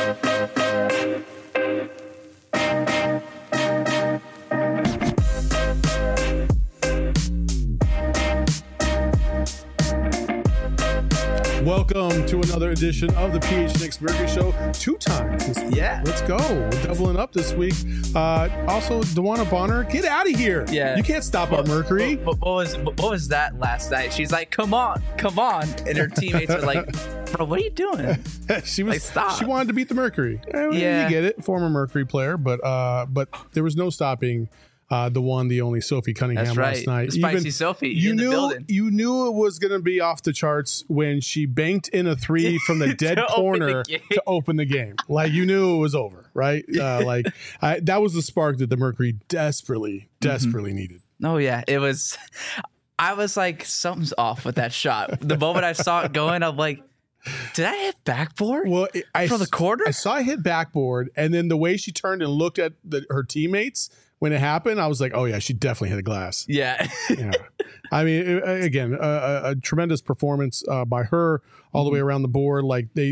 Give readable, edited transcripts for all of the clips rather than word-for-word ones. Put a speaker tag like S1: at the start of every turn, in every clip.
S1: Welcome to another edition of the PHNX Mercury Show. 2 times this week.
S2: Yeah.
S1: Let's go. We're doubling up this week. Also, DeWanna Bonner, get out of here.
S2: Yeah.
S1: You can't stop our Mercury.
S2: What was that last night? She's like, come on. And her teammates are like, bro, what are you doing?
S1: She was
S2: like, stop.
S1: She wanted to beat the Mercury.
S2: Yeah.
S1: You get it. Former Mercury player, but there was no stopping the one, the only Sophie Cunningham.
S2: That's right.
S1: Last night.
S2: The spicy Sophie
S1: you
S2: in the
S1: knew,
S2: building.
S1: You knew it was going to be off the charts when she banked in a 3 from the dead corner to open the game. Like, you knew it was over, right? That was the spark that the Mercury desperately needed.
S2: Oh, yeah. It was. I was like, something's off with that shot. The moment I saw it going, I'm like, did I hit backboard?
S1: Well,
S2: from the corner?
S1: I saw it hit backboard, and then the way she turned and looked at her teammates when it happened, I was like, oh, yeah, she definitely hit a glass.
S2: Yeah.
S1: Yeah. I mean, again, a tremendous performance by her all the way around the board. Like, they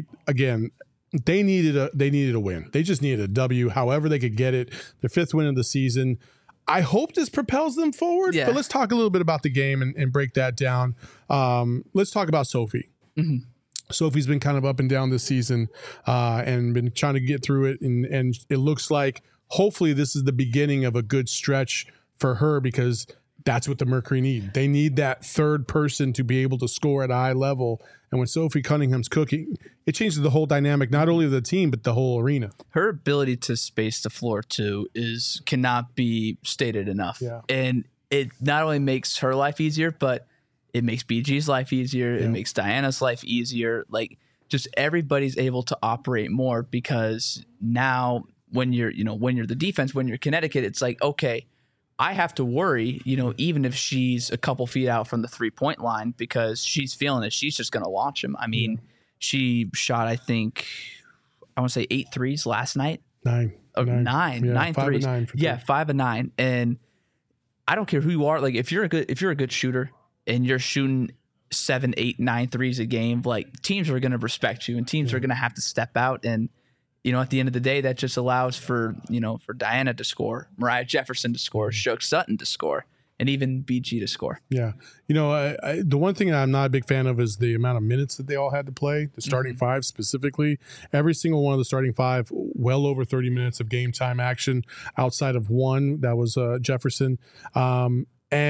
S1: needed a win. They just needed a W, however they could get it. Their 5th win of the season. I hope this propels them forward, but let's talk a little bit about the game and break that down. Let's talk about Sophie.
S2: Mm-hmm.
S1: Sophie's been kind of up and down this season and been trying to get through it. And it looks like hopefully this is the beginning of a good stretch for her, because that's what the Mercury need. They need that third person to be able to score at a high level. And when Sophie Cunningham's cooking, it changes the whole dynamic, not only of the team, but the whole arena.
S2: Her ability to space the floor, too, cannot be stated enough.
S1: Yeah.
S2: And it not only makes her life easier, but it makes BG's life easier. Yeah. It makes Diana's life easier. Like, just everybody's able to operate more, because now when you're the defense, when you're Connecticut, it's like, okay, I have to worry, even if she's a couple feet out from the 3-point line, because she's feeling it. She's just going to launch him. I mean, she shot, I think, I want to say 8 threes last night.
S1: 9
S2: threes.
S1: 5
S2: of 9. And I don't care who you are. Like, if you're a good shooter and you're shooting 7, 8, 9 threes a game, like, teams are going to respect you, and teams are going to have to step out. And at the end of the day, that just allows for Diana to score, Mariah Jefferson to score, Shook Sutton to score, and even BG to score.
S1: Yeah. The one thing I'm not a big fan of is the amount of minutes that they all had to play, the starting 5 specifically. Every single one of the starting 5, well over 30 minutes of game time action, outside of one, that was Jefferson. But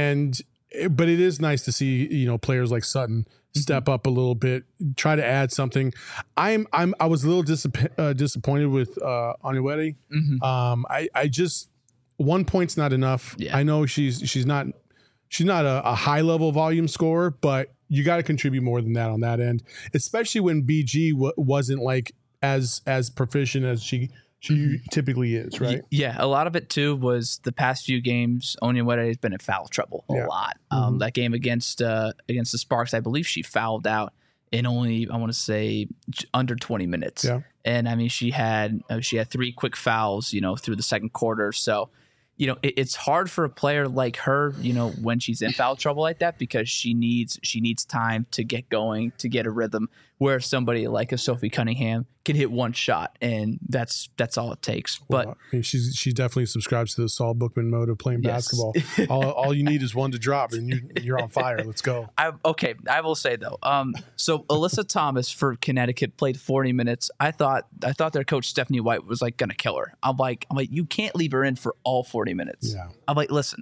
S1: it is nice to see, players like Sutton step up a little bit, try to add something. I was a little disappointed with Onyewetti.
S2: Mm-hmm.
S1: I just 1 point's not enough.
S2: Yeah.
S1: I know she's not a high level volume scorer, but you got to contribute more than that on that end, especially when BG wasn't like as proficient as she typically is, right?
S2: Yeah, a lot of it too was the past few games. Onyewetti has been in foul trouble a lot. That game against the Sparks, I believe she fouled out in only, I want to say, under 20 minutes. Yeah. And I mean, she had 3 quick fouls, through the second quarter. So, it's hard for a player like her, when she's in foul trouble like that, because she needs time to get going, to get a rhythm, where somebody like a Sophie Cunningham can hit one shot, and that's all it takes. But
S1: I mean, she definitely subscribes to the Saul Bookman mode of playing basketball. all you need is one to drop, and you're on fire. Let's go.
S2: I will say though, so Alyssa Thomas for Connecticut played 40 minutes. I thought their coach Stephanie White was like gonna kill her. I'm like, you can't leave her in for all 40 minutes. Yeah. I'm like, listen,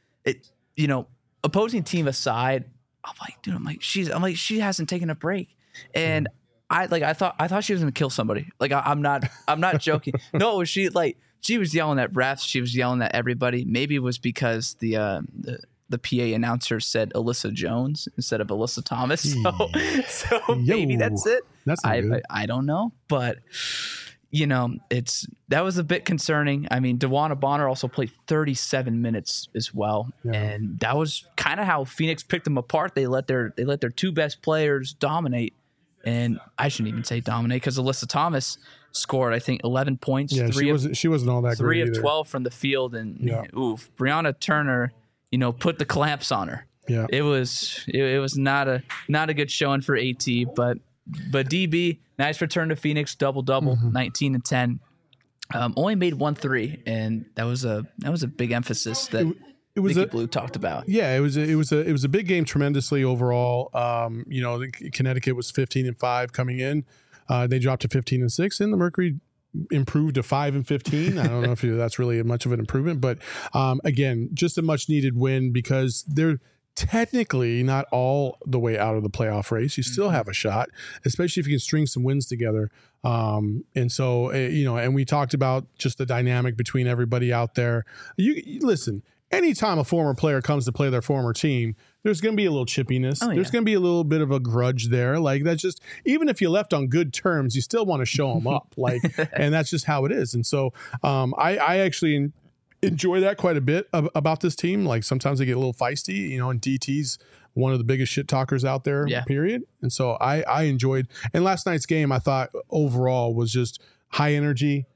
S2: opposing team aside, she hasn't taken a break. And I thought she was gonna kill somebody. Like, I'm not joking. No, she was yelling at refs. She was yelling at everybody. Maybe it was because the PA announcer said Alyssa Jones instead of Alyssa Thomas. So maybe that's it. I don't know, but that was a bit concerning. I mean, DeWanna Bonner also played 37 minutes as well, and that was kind of how Phoenix picked them apart. They let their 2 best players dominate. And I shouldn't even say dominate, because Alyssa Thomas scored, I think, 11 points.
S1: Yeah, she wasn't all that great.
S2: 3 of 12 from the field, and Brianna Turner, put the clamps on her. Yeah, it was not a good showing for AT, but But DB, nice return to Phoenix, double-double, 19 and 10. Only made 1 3, and that was a big emphasis that
S1: it was
S2: Nicky Blue talked about.
S1: Yeah, it was a big game tremendously overall. Connecticut was 15 and 5 coming in. They dropped to 15 and 6, and the Mercury improved to 5 and 15. I don't know if that's really much of an improvement, but again, just a much needed win because they're technically not all the way out of the playoff race. You still have a shot, especially if you can string some wins together. And so, and we talked about just the dynamic between everybody out there. You listen, anytime a former player comes to play their former team, there's going to be a little chippiness. There's going to be a little bit of a grudge there. Like that's just, even if you left on good terms, you still want to show them up. Like, and that's just how it is. And so, I actually enjoy that quite a bit about this team. Like sometimes they get a little feisty, and DT's one of the biggest shit talkers out there, period. And so I enjoyed, and last night's game I thought overall was just high energy.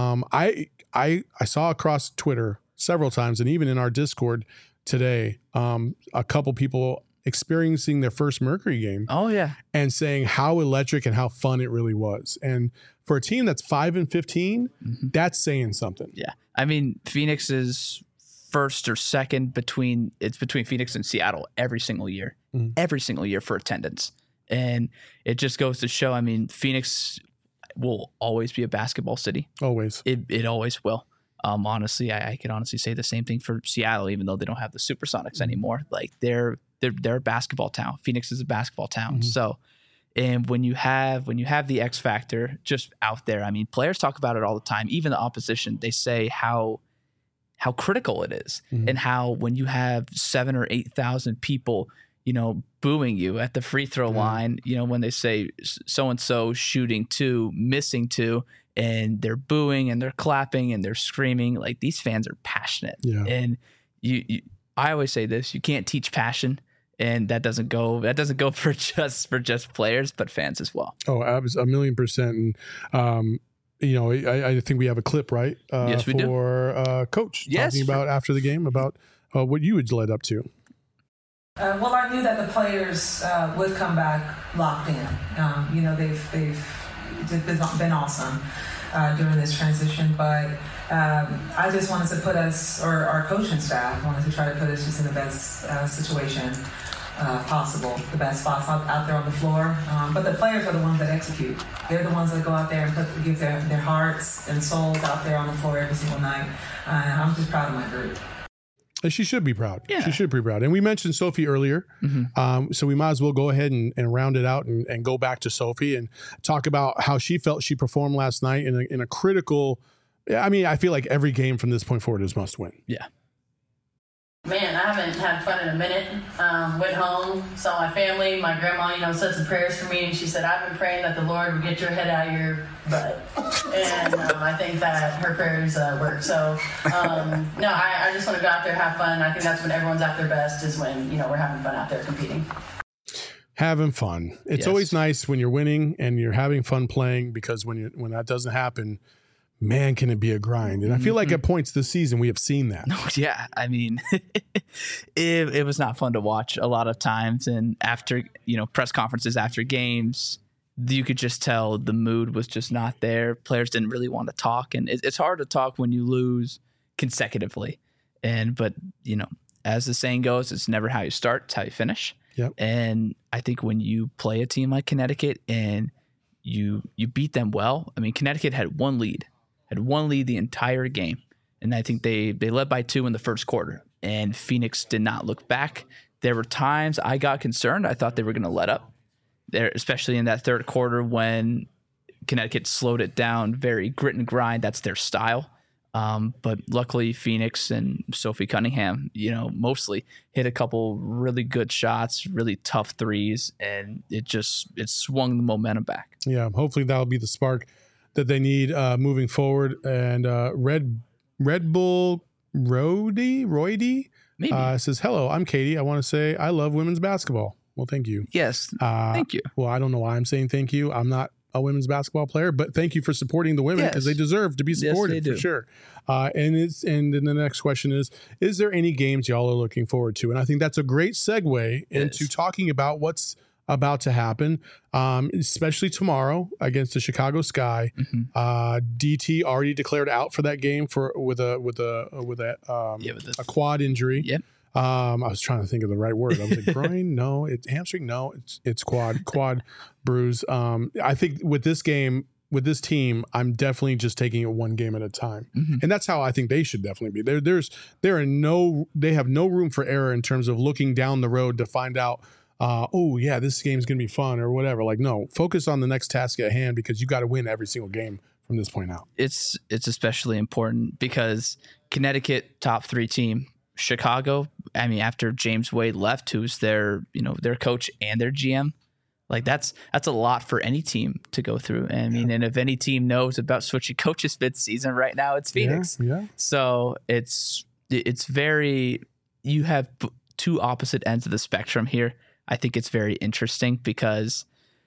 S1: I saw across Twitter several times and even in our Discord today, a couple people experiencing their first Mercury game.
S2: Oh yeah.
S1: And saying how electric and how fun it really was. And for a team that's 5 and 15, that's saying something.
S2: Yeah. I mean, Phoenix is first or second between Phoenix and Seattle every single year for attendance. And it just goes to show, I mean, Phoenix will always be a basketball city.
S1: Always.
S2: It always will. Honestly, I could honestly say the same thing for Seattle, even though they don't have the Supersonics anymore. Like they're a basketball town. Phoenix is a basketball town. So, and when you have the X factor just out there, I mean, players talk about it all the time. Even the opposition, they say how critical it is, and how when you have 7,000 or 8,000 people, booing you at the free throw line, when they say so and so shooting 2, missing 2. And they're booing and they're clapping and they're screaming. Like these fans are passionate. Yeah. And I always say this: you can't teach passion, and that doesn't go for just players, but fans as well.
S1: Oh, 1,000,000%. And I think we have a clip, right?
S2: Yes, we do.
S1: For Coach talking about after the game about what you had led up to.
S3: Well, I knew that the players would come back locked in. They've been awesome during this transition, but I just wanted to put us, or our coaching staff wanted to try to put us just in the best situation possible, the best spots out there on the floor. But the players are the ones that execute. They're the ones that go out there and give their hearts and souls out there on the floor every single night. I'm just proud of my group.
S1: And she should be proud. Yeah. She should be proud. And we mentioned Sophie earlier. So we might as well go ahead and round it out and go back to Sophie and talk about how she felt she performed last night in a critical. I mean, I feel like every game from this point forward is must win.
S2: Yeah.
S4: Man, I haven't had fun in a minute. Went home, saw my family. My grandma, said some prayers for me, and she said, I've been praying that the Lord would get your head out of your butt. And I think that her prayers work. So, no, I just want to go out there and have fun. I think that's when everyone's at their best, is when, we're having fun out there competing.
S1: Having fun. It's always nice when you're winning and you're having fun playing, because when that doesn't happen, man, can it be a grind. And I feel like at points this season, we have seen that.
S2: Yeah. I mean, it was not fun to watch a lot of times. And after, press conferences after games, you could just tell the mood was just not there. Players didn't really want to talk. And it's hard to talk when you lose consecutively. But, as the saying goes, it's never how you start, it's how you finish.
S1: Yep.
S2: And I think when you play a team like Connecticut and you beat them well, I mean, Connecticut had one lead the entire game. And I think they led by 2 in the first quarter, and Phoenix did not look back. There were times I got concerned. I thought they were going to let up there, especially in that third quarter when Connecticut slowed it down, very grit and grind. That's their style. But luckily Phoenix and Sophie Cunningham, mostly hit a couple really good shots, really tough threes, and it swung the momentum back.
S1: Yeah. Hopefully that'll be the spark that they need moving forward. And Red Bull Roydy says, hello, I'm Katie. I want to say I love women's basketball. Well, thank you.
S2: Yes. Thank you.
S1: Well, I don't know why I'm saying thank you. I'm not a women's basketball player, but thank you for supporting the women, because they deserve to be supported for sure. And then the next question is there any games y'all are looking forward to? And I think that's a great segue into talking about what's about to happen, especially tomorrow against the Chicago Sky. DT already declared out for that game with a quad injury.
S2: Yep.
S1: I was trying to think of the right word. I was like, groin? No. It's hamstring? No. It's quad bruise. I think with this game, with this team, I'm definitely just taking it one game at a time. And that's how I think they should definitely be. They have no room for error in terms of looking down the road to find out, this game's going to be fun or whatever. Like, no, focus on the next task at hand because you got to win every single game from this point out.
S2: It's especially important because Connecticut, top 3 team, Chicago, I mean, after James Wade left, who's their coach and their GM, like that's a lot for any team to go through. And and if any team knows about switching coaches mid-season right now, it's Phoenix.
S1: Yeah.
S2: So it's very, you have 2 opposite ends of the spectrum here. I think it's very interesting because,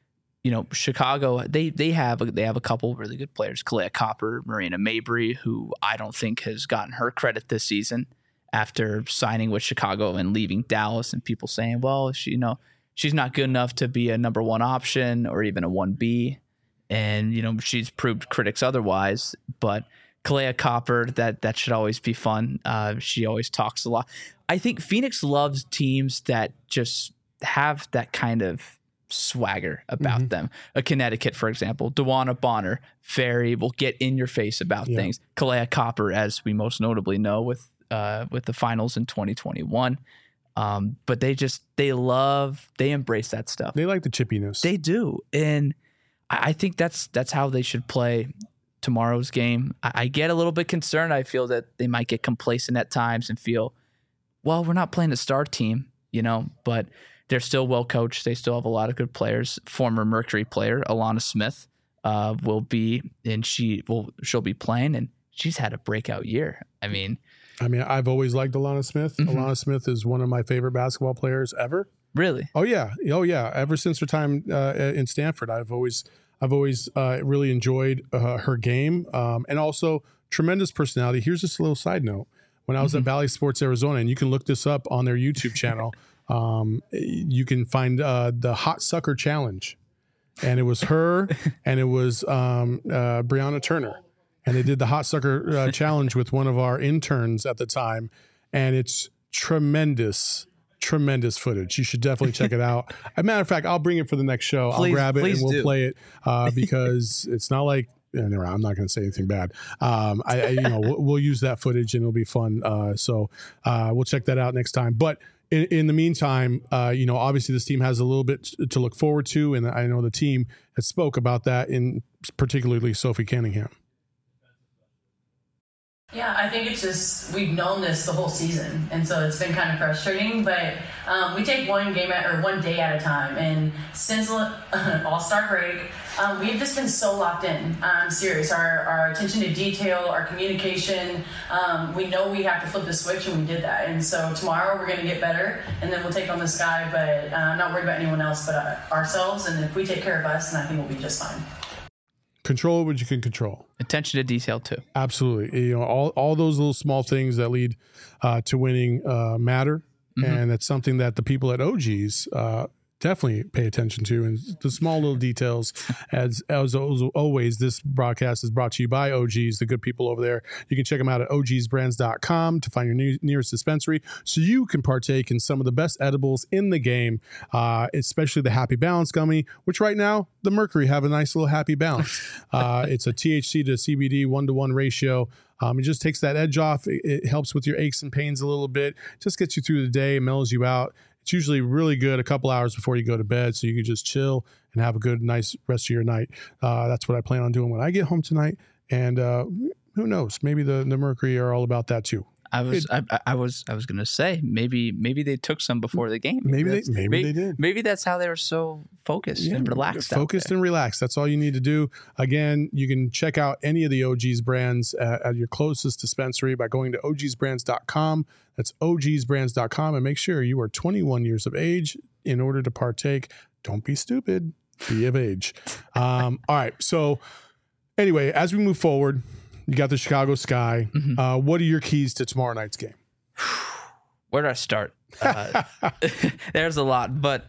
S2: Chicago, they have a couple really good players, Kalea Copper, Marina Mabry, who I don't think has gotten her credit this season after signing with Chicago and leaving Dallas, and people saying, well, she's not good enough to be a number 1 option or even a 1B. And, she's proved critics otherwise, but Kalea Copper, that should always be fun. She always talks a lot. I think Phoenix loves teams that just have that kind of swagger about them. A Connecticut, for example, Dewana Bonner, will get in your face about things. Kalea Copper, as we most notably know with the finals in 2021. But they embrace that stuff.
S1: They like the chippiness.
S2: They do. And I think that's how they should play tomorrow's game. I get a little bit concerned. I feel that they might get complacent at times and feel, well, we're not playing a star team, but they're still well coached. They still have a lot of good players. Former Mercury player, Alana Smith, will be, and she'll be playing, and she's had a breakout year. I mean,
S1: I've always liked Alana Smith. Alana Smith is one of my favorite basketball players ever.
S2: Really?
S1: Oh yeah. Ever since her time in Stanford, I've always really enjoyed her game, and also tremendous personality. Here's just a little side note: when I was at Valley Sports Arizona, and you can look this up on their YouTube channel, you can find the Hot Sucker Challenge, and it was her and it was Brianna Turner. And they did the Hot Sucker Challenge with one of our interns at the time. And it's tremendous footage. You should definitely check it out. As a matter of fact, I'll bring it for the next show. I'll grab it and we'll play it because it's not like, anyway, I'm not going to say anything bad. We'll use that footage and it'll be fun. So we'll check that out next time. But in the meantime, obviously this team has a little bit to look forward to. And I know the team has spoke about that, in particularly Sophie Cunningham.
S4: Yeah, I think it's just, we've known this the whole season, and so it's been kind of frustrating, but we take one day at a time, and since All-Star break, we've just been so locked in. I'm serious. Our attention to detail, our communication, we know we have to flip the switch, and we did that, and so tomorrow we're going to get better, and then we'll take on the Sky, but I'm not worried about anyone else but ourselves, and if we take care of us, then I think we'll be just fine.
S1: Control what you can control.
S2: Attention to detail too.
S1: Absolutely. All those little small things that lead to winning matter. And that's something that the people at OGs definitely pay attention to, and the small little details. As always, this broadcast is brought to you by OGs, the good people over there. You can check them out at ogsbrands.com to find your nearest dispensary so you can partake in some of the best edibles in the game, especially the Happy Balance gummy, which right now the Mercury have a nice little Happy Balance. It's a THC to CBD 1-to-1 ratio. It just takes that edge off. It helps with your aches and pains a little bit, just gets you through the day, mellows you out. It's usually really good a couple hours before you go to bed, so you can just chill and have a good, nice rest of your night. That's what I plan on doing when I get home tonight. And who knows? Maybe the Mercury are all about that too.
S2: I was going to say maybe they took some before the game.
S1: Maybe they did.
S2: Maybe that's how they were so focused and relaxed.
S1: Focused and relaxed. That's all you need to do. Again, you can check out any of the OGs brands at your closest dispensary by going to ogsbrands.com. That's ogsbrands.com, and make sure you are 21 years of age in order to partake. Don't be stupid. Be of age. All right. So anyway, as we move forward, you got the Chicago Sky. What are your keys to tomorrow night's game?
S2: Where do I start? There's a lot, but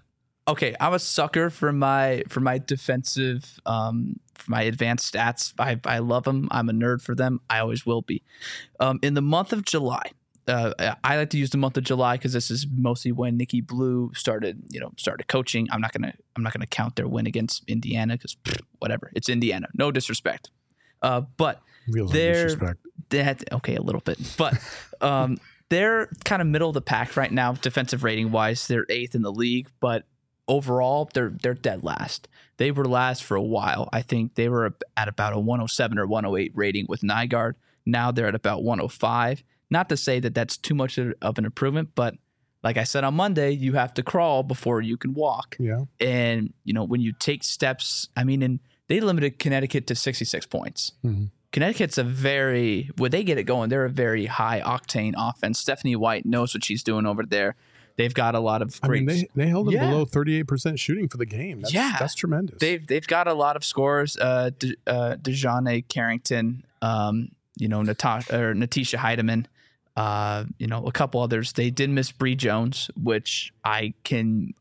S2: Okay, I'm a sucker for my defensive, for my advanced stats. I love them. I'm a nerd for them. I always will be. In the month of July, I like to use the month of July because this is mostly when Nikki Blue started coaching. I'm not gonna count their win against Indiana because whatever. It's Indiana. No disrespect. But they're okay, a little bit. But they're kind of middle of the pack right now, defensive rating wise. They're 8th in the league, but overall, they're dead last. They were last for a while. I think they were at about a 107 or 108 rating with Nygaard. Now they're at about 105. Not to say that that's too much of an improvement, but like I said on Monday, you have to crawl before you can walk.
S1: Yeah.
S2: And, when you take steps, and they limited Connecticut to 66 points. Mm-hmm. Connecticut's when they get it going, they're a very high octane offense. Stephanie White knows what she's doing over there. They've got a lot of great.
S1: They held them below 38% shooting for the game. That's tremendous.
S2: They've got a lot of scores. Dejane Carrington, Natisha Heidemann, a couple others. They did miss Bree Jones, which I can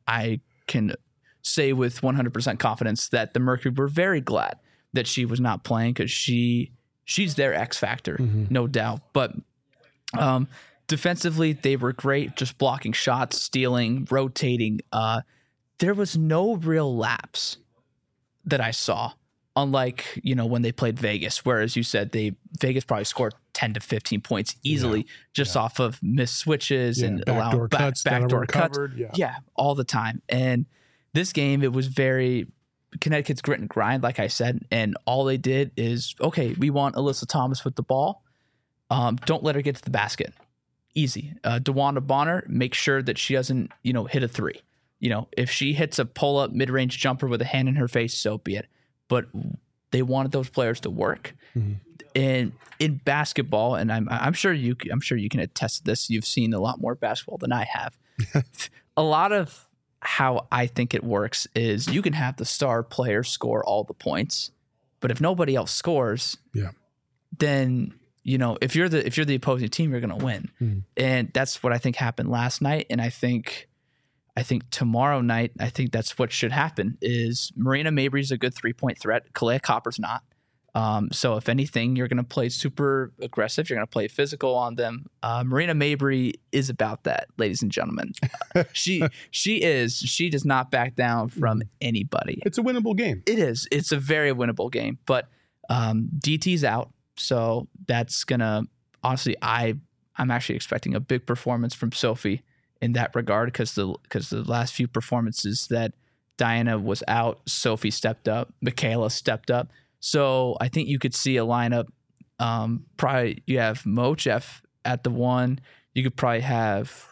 S2: say with 100% confidence that the Mercury were very glad that she was not playing because she's their X factor, no doubt. But defensively, they were great, just blocking shots, stealing, rotating. There was no real lapse that I saw, unlike, when they played Vegas, whereas you said Vegas probably scored 10 to 15 points easily off of missed switches and allowing backdoor cuts. Yeah, all the time. And this game, it was very Connecticut's grit and grind, like I said, and all they did is, okay, we want Alyssa Thomas with the ball. Don't let her get to the basket. Easy. DeWanda Bonner, make sure that she doesn't, hit a three. If she hits a pull-up mid-range jumper with a hand in her face, so be it. But they wanted those players to work. Mm-hmm. And in basketball, and I'm sure you can attest to this. You've seen a lot more basketball than I have. A lot of how I think it works is you can have the star player score all the points, but if nobody else scores, then if you're the opposing team, you're going to win. Mm. And that's what I think happened last night. And I think tomorrow night, I think that's what should happen is Marina Mabry's a good 3-point threat. Kalea Copper's not. So if anything, you're going to play super aggressive. You're going to play physical on them. Marina Mabry is about that, ladies and gentlemen. She does not back down from anybody.
S1: It's a winnable game.
S2: It is. It's a very winnable game, but DT's out. So that's going to, honestly, I'm actually expecting a big performance from Sophie in that regard because the last few performances that Diana was out, Sophie stepped up, Michaela stepped up. So I think you could see a lineup. Probably you have Mochef at the 1. You could probably have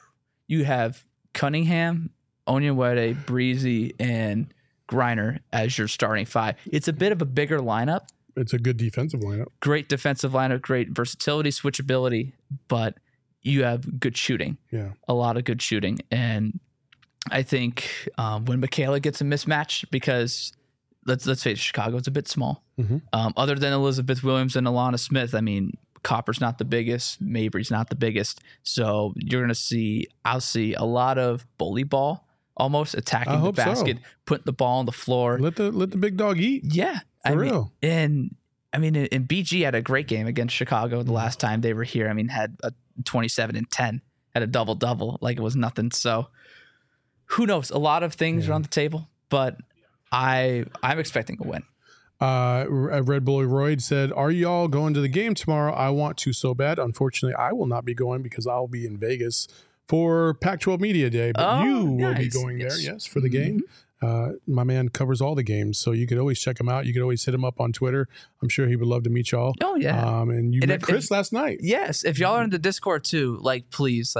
S2: Cunningham, Onyenwere, Breezy, and Griner as your starting 5. It's a bit of a bigger lineup.
S1: It's a good defensive lineup. Great
S2: defensive lineup, great versatility, switchability, but you have good shooting.
S1: Yeah,
S2: a lot of good shooting, and I think when Michaela gets a mismatch because. Let's face it, Chicago's a bit small. Mm-hmm. Other than Elizabeth Williams and Alana Smith, Copper's not the biggest, Mabry's not the biggest. So you're going to I'll see a lot of bully ball, almost attacking the basket, putting the ball on the floor.
S1: Let the big dog eat.
S2: Yeah.
S1: For real.
S2: And BG had a great game against Chicago the last time they were here. Had a 27 and 10, had a double-double like it was nothing. So who knows? A lot of things are on the table, but I'm expecting a win.
S1: Red Bull Royd said, "Are y'all going to the game tomorrow? I want to so bad. Unfortunately, I will not be going because I'll be in Vegas for Pac-12 Media Day. But you will be going there, yes, for the game. My man covers all the games, so you could always check him out. You could always hit him up on Twitter. I'm sure he would love to meet y'all.
S2: Oh yeah.
S1: And you met Chris last night.
S2: Yes. If y'all are in the Discord too, please,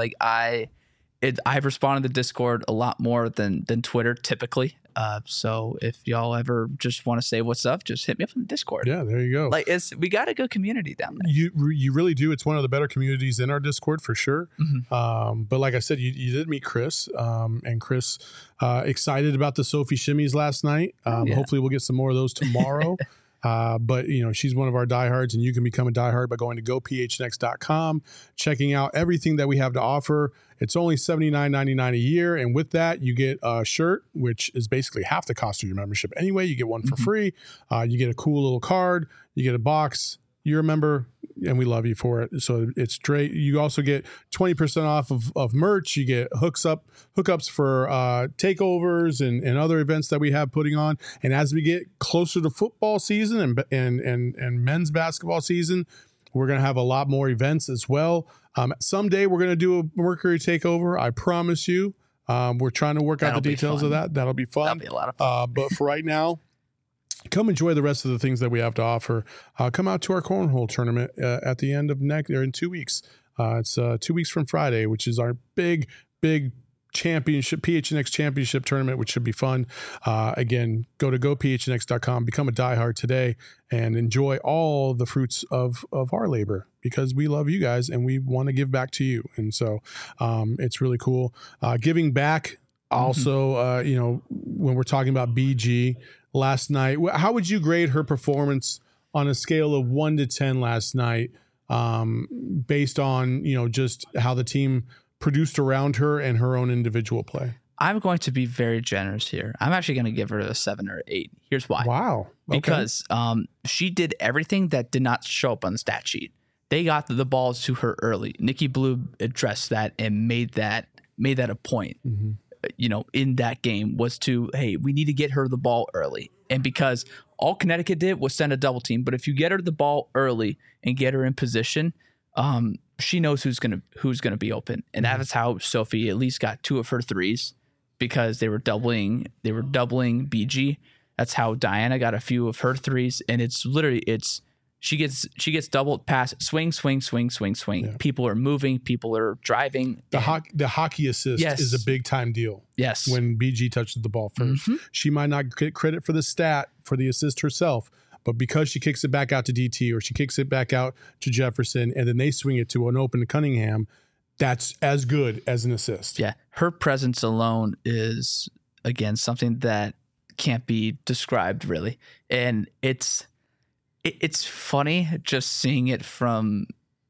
S2: I've responded to Discord a lot more than Twitter typically. So if y'all ever just want to say what's up, just hit me up on the Discord.
S1: Yeah, there you go.
S2: We got a good community down there.
S1: You really do. It's one of the better communities in our Discord for sure. Mm-hmm. But like I said, you did meet Chris, and Chris excited about the Sophie shimmies last night. Hopefully we'll get some more of those tomorrow. But, she's one of our diehards, and you can become a diehard by going to gophnx.com, checking out everything that we have to offer. It's only $79.99 a year. And with that, you get a shirt, which is basically half the cost of your membership anyway. You get one for free. You get a cool little card. You get a box. You're a member, and we love you for it. So it's great. You also get 20% off of merch. You get hookups for takeovers and other events that we have putting on. And as we get closer to football season and men's basketball season, we're going to have a lot more events as well. Someday we're going to do a Mercury takeover. I promise you. We're trying to work out the details of that. That'll be fun.
S2: That'll be a lot of fun.
S1: But for right now, come enjoy the rest of the things that we have to offer. Come out to our cornhole tournament at the end of in 2 weeks. It's 2 weeks from Friday, which is our big championship, PHNX championship tournament, which should be fun. Again, go to gophnx.com, become a diehard today, and enjoy all the fruits of our labor, because we love you guys and we want to give back to you. And so it's really cool. Giving back also, when we're talking about BG, last night, how would you grade her performance on a scale of 1 to 10 last night, based on, just how the team produced around her and her own individual play?
S2: I'm going to be very generous here. I'm actually going to give her a 7 or 8. Here's why.
S1: Wow. Okay.
S2: Because she did everything that did not show up on the stat sheet. They got the balls to her early. Nikki Blue addressed that and made that a point. Mm-hmm. In that game was to, hey, we need to get her the ball early. And because all Connecticut did was send a double team, but if you get her the ball early and get her in position, she knows who's gonna be open. And that is how Sophie at least got 2 of her threes, because they were doubling BG. That's how Diana got a few of her threes. And it's literally she gets doubled, pass, swing. Yeah. People are moving. People are driving.
S1: The hockey assist is a big time deal.
S2: Yes.
S1: When BG touches the ball first. Mm-hmm. She might not get credit for the stat for the assist herself, but because she kicks it back out to DT, or she kicks it back out to Jefferson, and then they swing it to an open Cunningham, that's as good as an assist.
S2: Yeah. Her presence alone is, again, something that can't be described really. And it's funny just seeing it from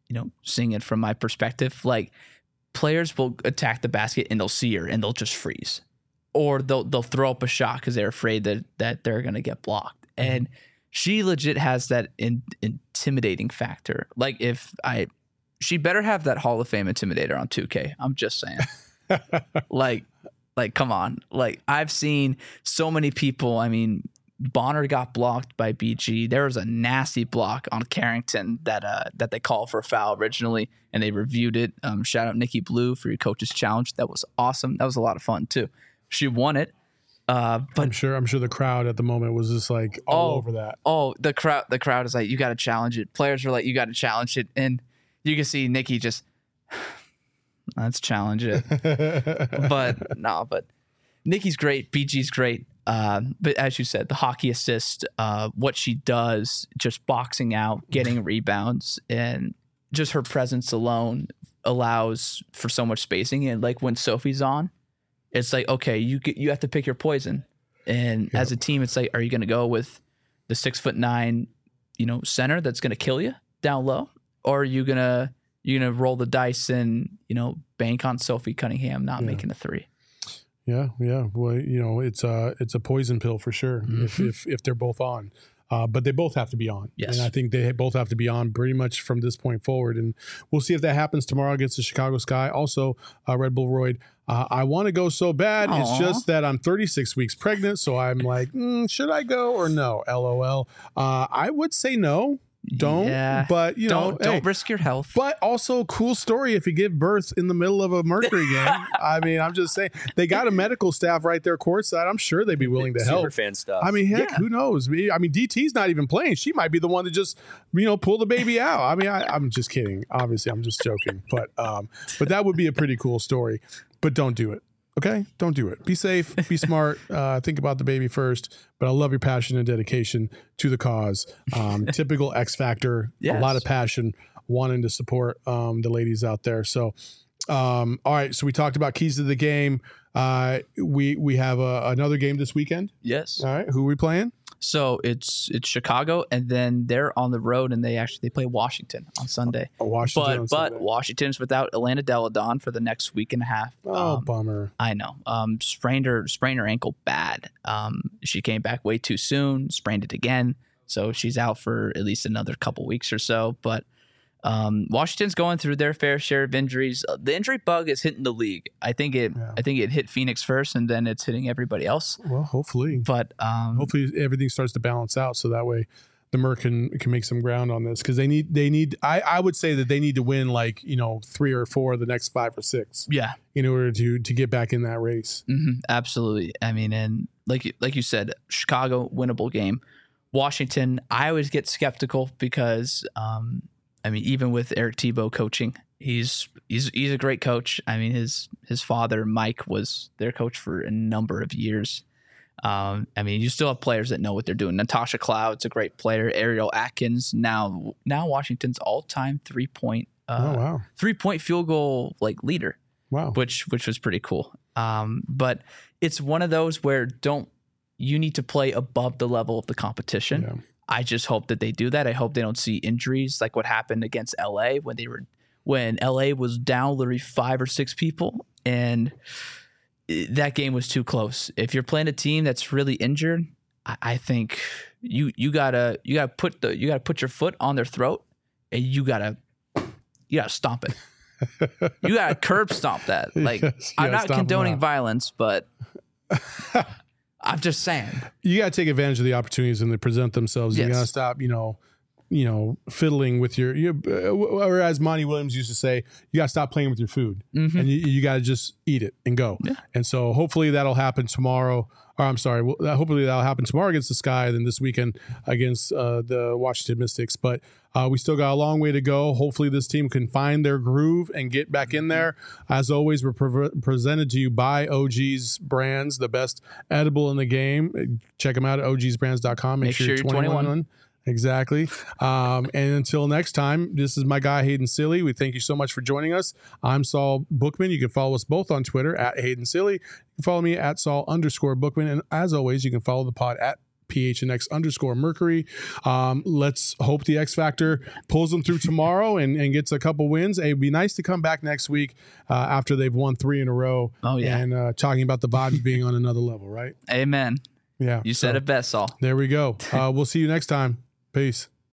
S2: my perspective. Like, players will attack the basket and they'll see her and they'll just freeze, or they'll throw up a shot because they're afraid that they're going to get blocked. And she legit has that intimidating factor. Like, she better have that Hall of Fame intimidator on 2K. I'm just saying. like, come on. Like, I've seen so many people. I mean, Bonner got blocked by BG. There was a nasty block on Carrington that they called for a foul originally, and they reviewed it. Shout out Nikki Blue for your coach's challenge. That was awesome. That was a lot of fun too. She won it. But
S1: I'm sure the crowd at the moment was just like all over that.
S2: Oh, the crowd is like, you got to challenge it. Players were like, you got to challenge it, and you can see Nikki just, let's challenge it. But Nikki's great. BG's great. But as you said, the hockey assist, what she does, just boxing out, getting rebounds, and just her presence alone allows for so much spacing. And like when Sophie's on, it's like, okay, you have to pick your poison. And as a team, it's like, are you going to go with the 6'9", center that's going to kill you down low, or are you gonna roll the dice and bank on Sophie Cunningham not making a 3?
S1: Yeah. Well, it's a poison pill for sure. Mm-hmm. if they're both on. But they both have to be on.
S2: Yes.
S1: And I think they both have to be on pretty much from this point forward. And we'll see if that happens tomorrow against the Chicago Sky. Also, Red Bull Royd, I want to go so bad. Aww. It's just that I'm 36 weeks pregnant. So I'm like, should I go or no? LOL. I would say no. But
S2: don't risk your health.
S1: But also, cool story if you give birth in the middle of a Mercury game. I mean, I'm just saying, they got a medical staff right there courtside. I'm sure they'd be willing to help.
S5: Super fan stuff.
S1: I mean, heck, who knows? I mean, DT's not even playing. She might be the one to just pull the baby out. I mean, I'm just kidding. Obviously, I'm just joking. But that would be a pretty cool story. But don't do it. Okay, don't do it. Be safe, be smart, think about the baby first. But I love your passion and dedication to the cause. Typical X Factor, yes. A lot of passion, wanting to support the ladies out there. So, all right, so we talked about keys to the game. We have another game this weekend.
S2: Yes.
S1: All right, who are we playing?
S2: So it's Chicago, and then they're on the road, and they play Washington on Sunday. But Washington's without Elena Delle Donne for the next week and a half.
S1: Bummer.
S2: I know. Sprained her ankle bad. She came back way too soon, sprained it again, so she's out for at least another couple weeks or so. But Washington's going through their fair share of injuries. The injury bug is hitting the league. I think it hit Phoenix first, and then it's hitting everybody else.
S1: Well, hopefully.
S2: But
S1: hopefully everything starts to balance out, so that way the Merc can make some ground on this, because they need. I would say that they need to win 3 or 4 of the next 5 or 6.
S2: Yeah,
S1: in order to get back in that race.
S2: Mm-hmm, absolutely. I mean, and like you said, Chicago winnable game. Washington, I always get skeptical because. Even with Eric Thibault coaching, he's a great coach. I mean, his father, Mike, was their coach for a number of years. You still have players that know what they're doing. Natasha Cloud's a great player. Ariel Atkins, now Washington's all-time 3-point field goal leader.
S1: Wow.
S2: Which was pretty cool. But it's one of those where you need to play above the level of the competition.
S1: Yeah.
S2: I just hope that they do that. I hope they don't see injuries like what happened against LA when LA was down literally 5 or 6 people, and that game was too close. If you're playing a team that's really injured, I think you gotta put your foot on their throat, and you gotta stomp it. You gotta curb stomp that. I'm not condoning violence, but. I'm just saying. You
S1: got to take advantage of the opportunities when they present themselves. Yes. You got to stop, fiddling with or as Monty Williams used to say, you got to stop playing with your food. Mm-hmm. And you got to just eat it and go. Yeah. And so hopefully that'll happen tomorrow. Or I'm sorry, hopefully that'll happen tomorrow against the Sky, then this weekend against the Washington Mystics. But we still got a long way to go. Hopefully this team can find their groove and get back in there. As always, we're presented to you by OG's Brands, the best edible in the game. Check them out at ogsbrands.com.
S2: Make sure you're 21.
S1: Exactly. And until next time, this is my guy, Hayden Silly. We thank you so much for joining us. I'm Saul Bookman. You can follow us both on Twitter at Hayden Silly. You can follow me at Saul_Bookman. And as always, you can follow the pod at PHNX_Mercury. Let's hope the X Factor pulls them through tomorrow and gets a couple wins. It'd be nice to come back next week after they've won 3 in a row.
S2: Oh, yeah.
S1: And talking about the vibes being on another level, right?
S2: Amen.
S1: Yeah.
S2: You said it best, Saul.
S1: There we go. We'll see you next time. Peace.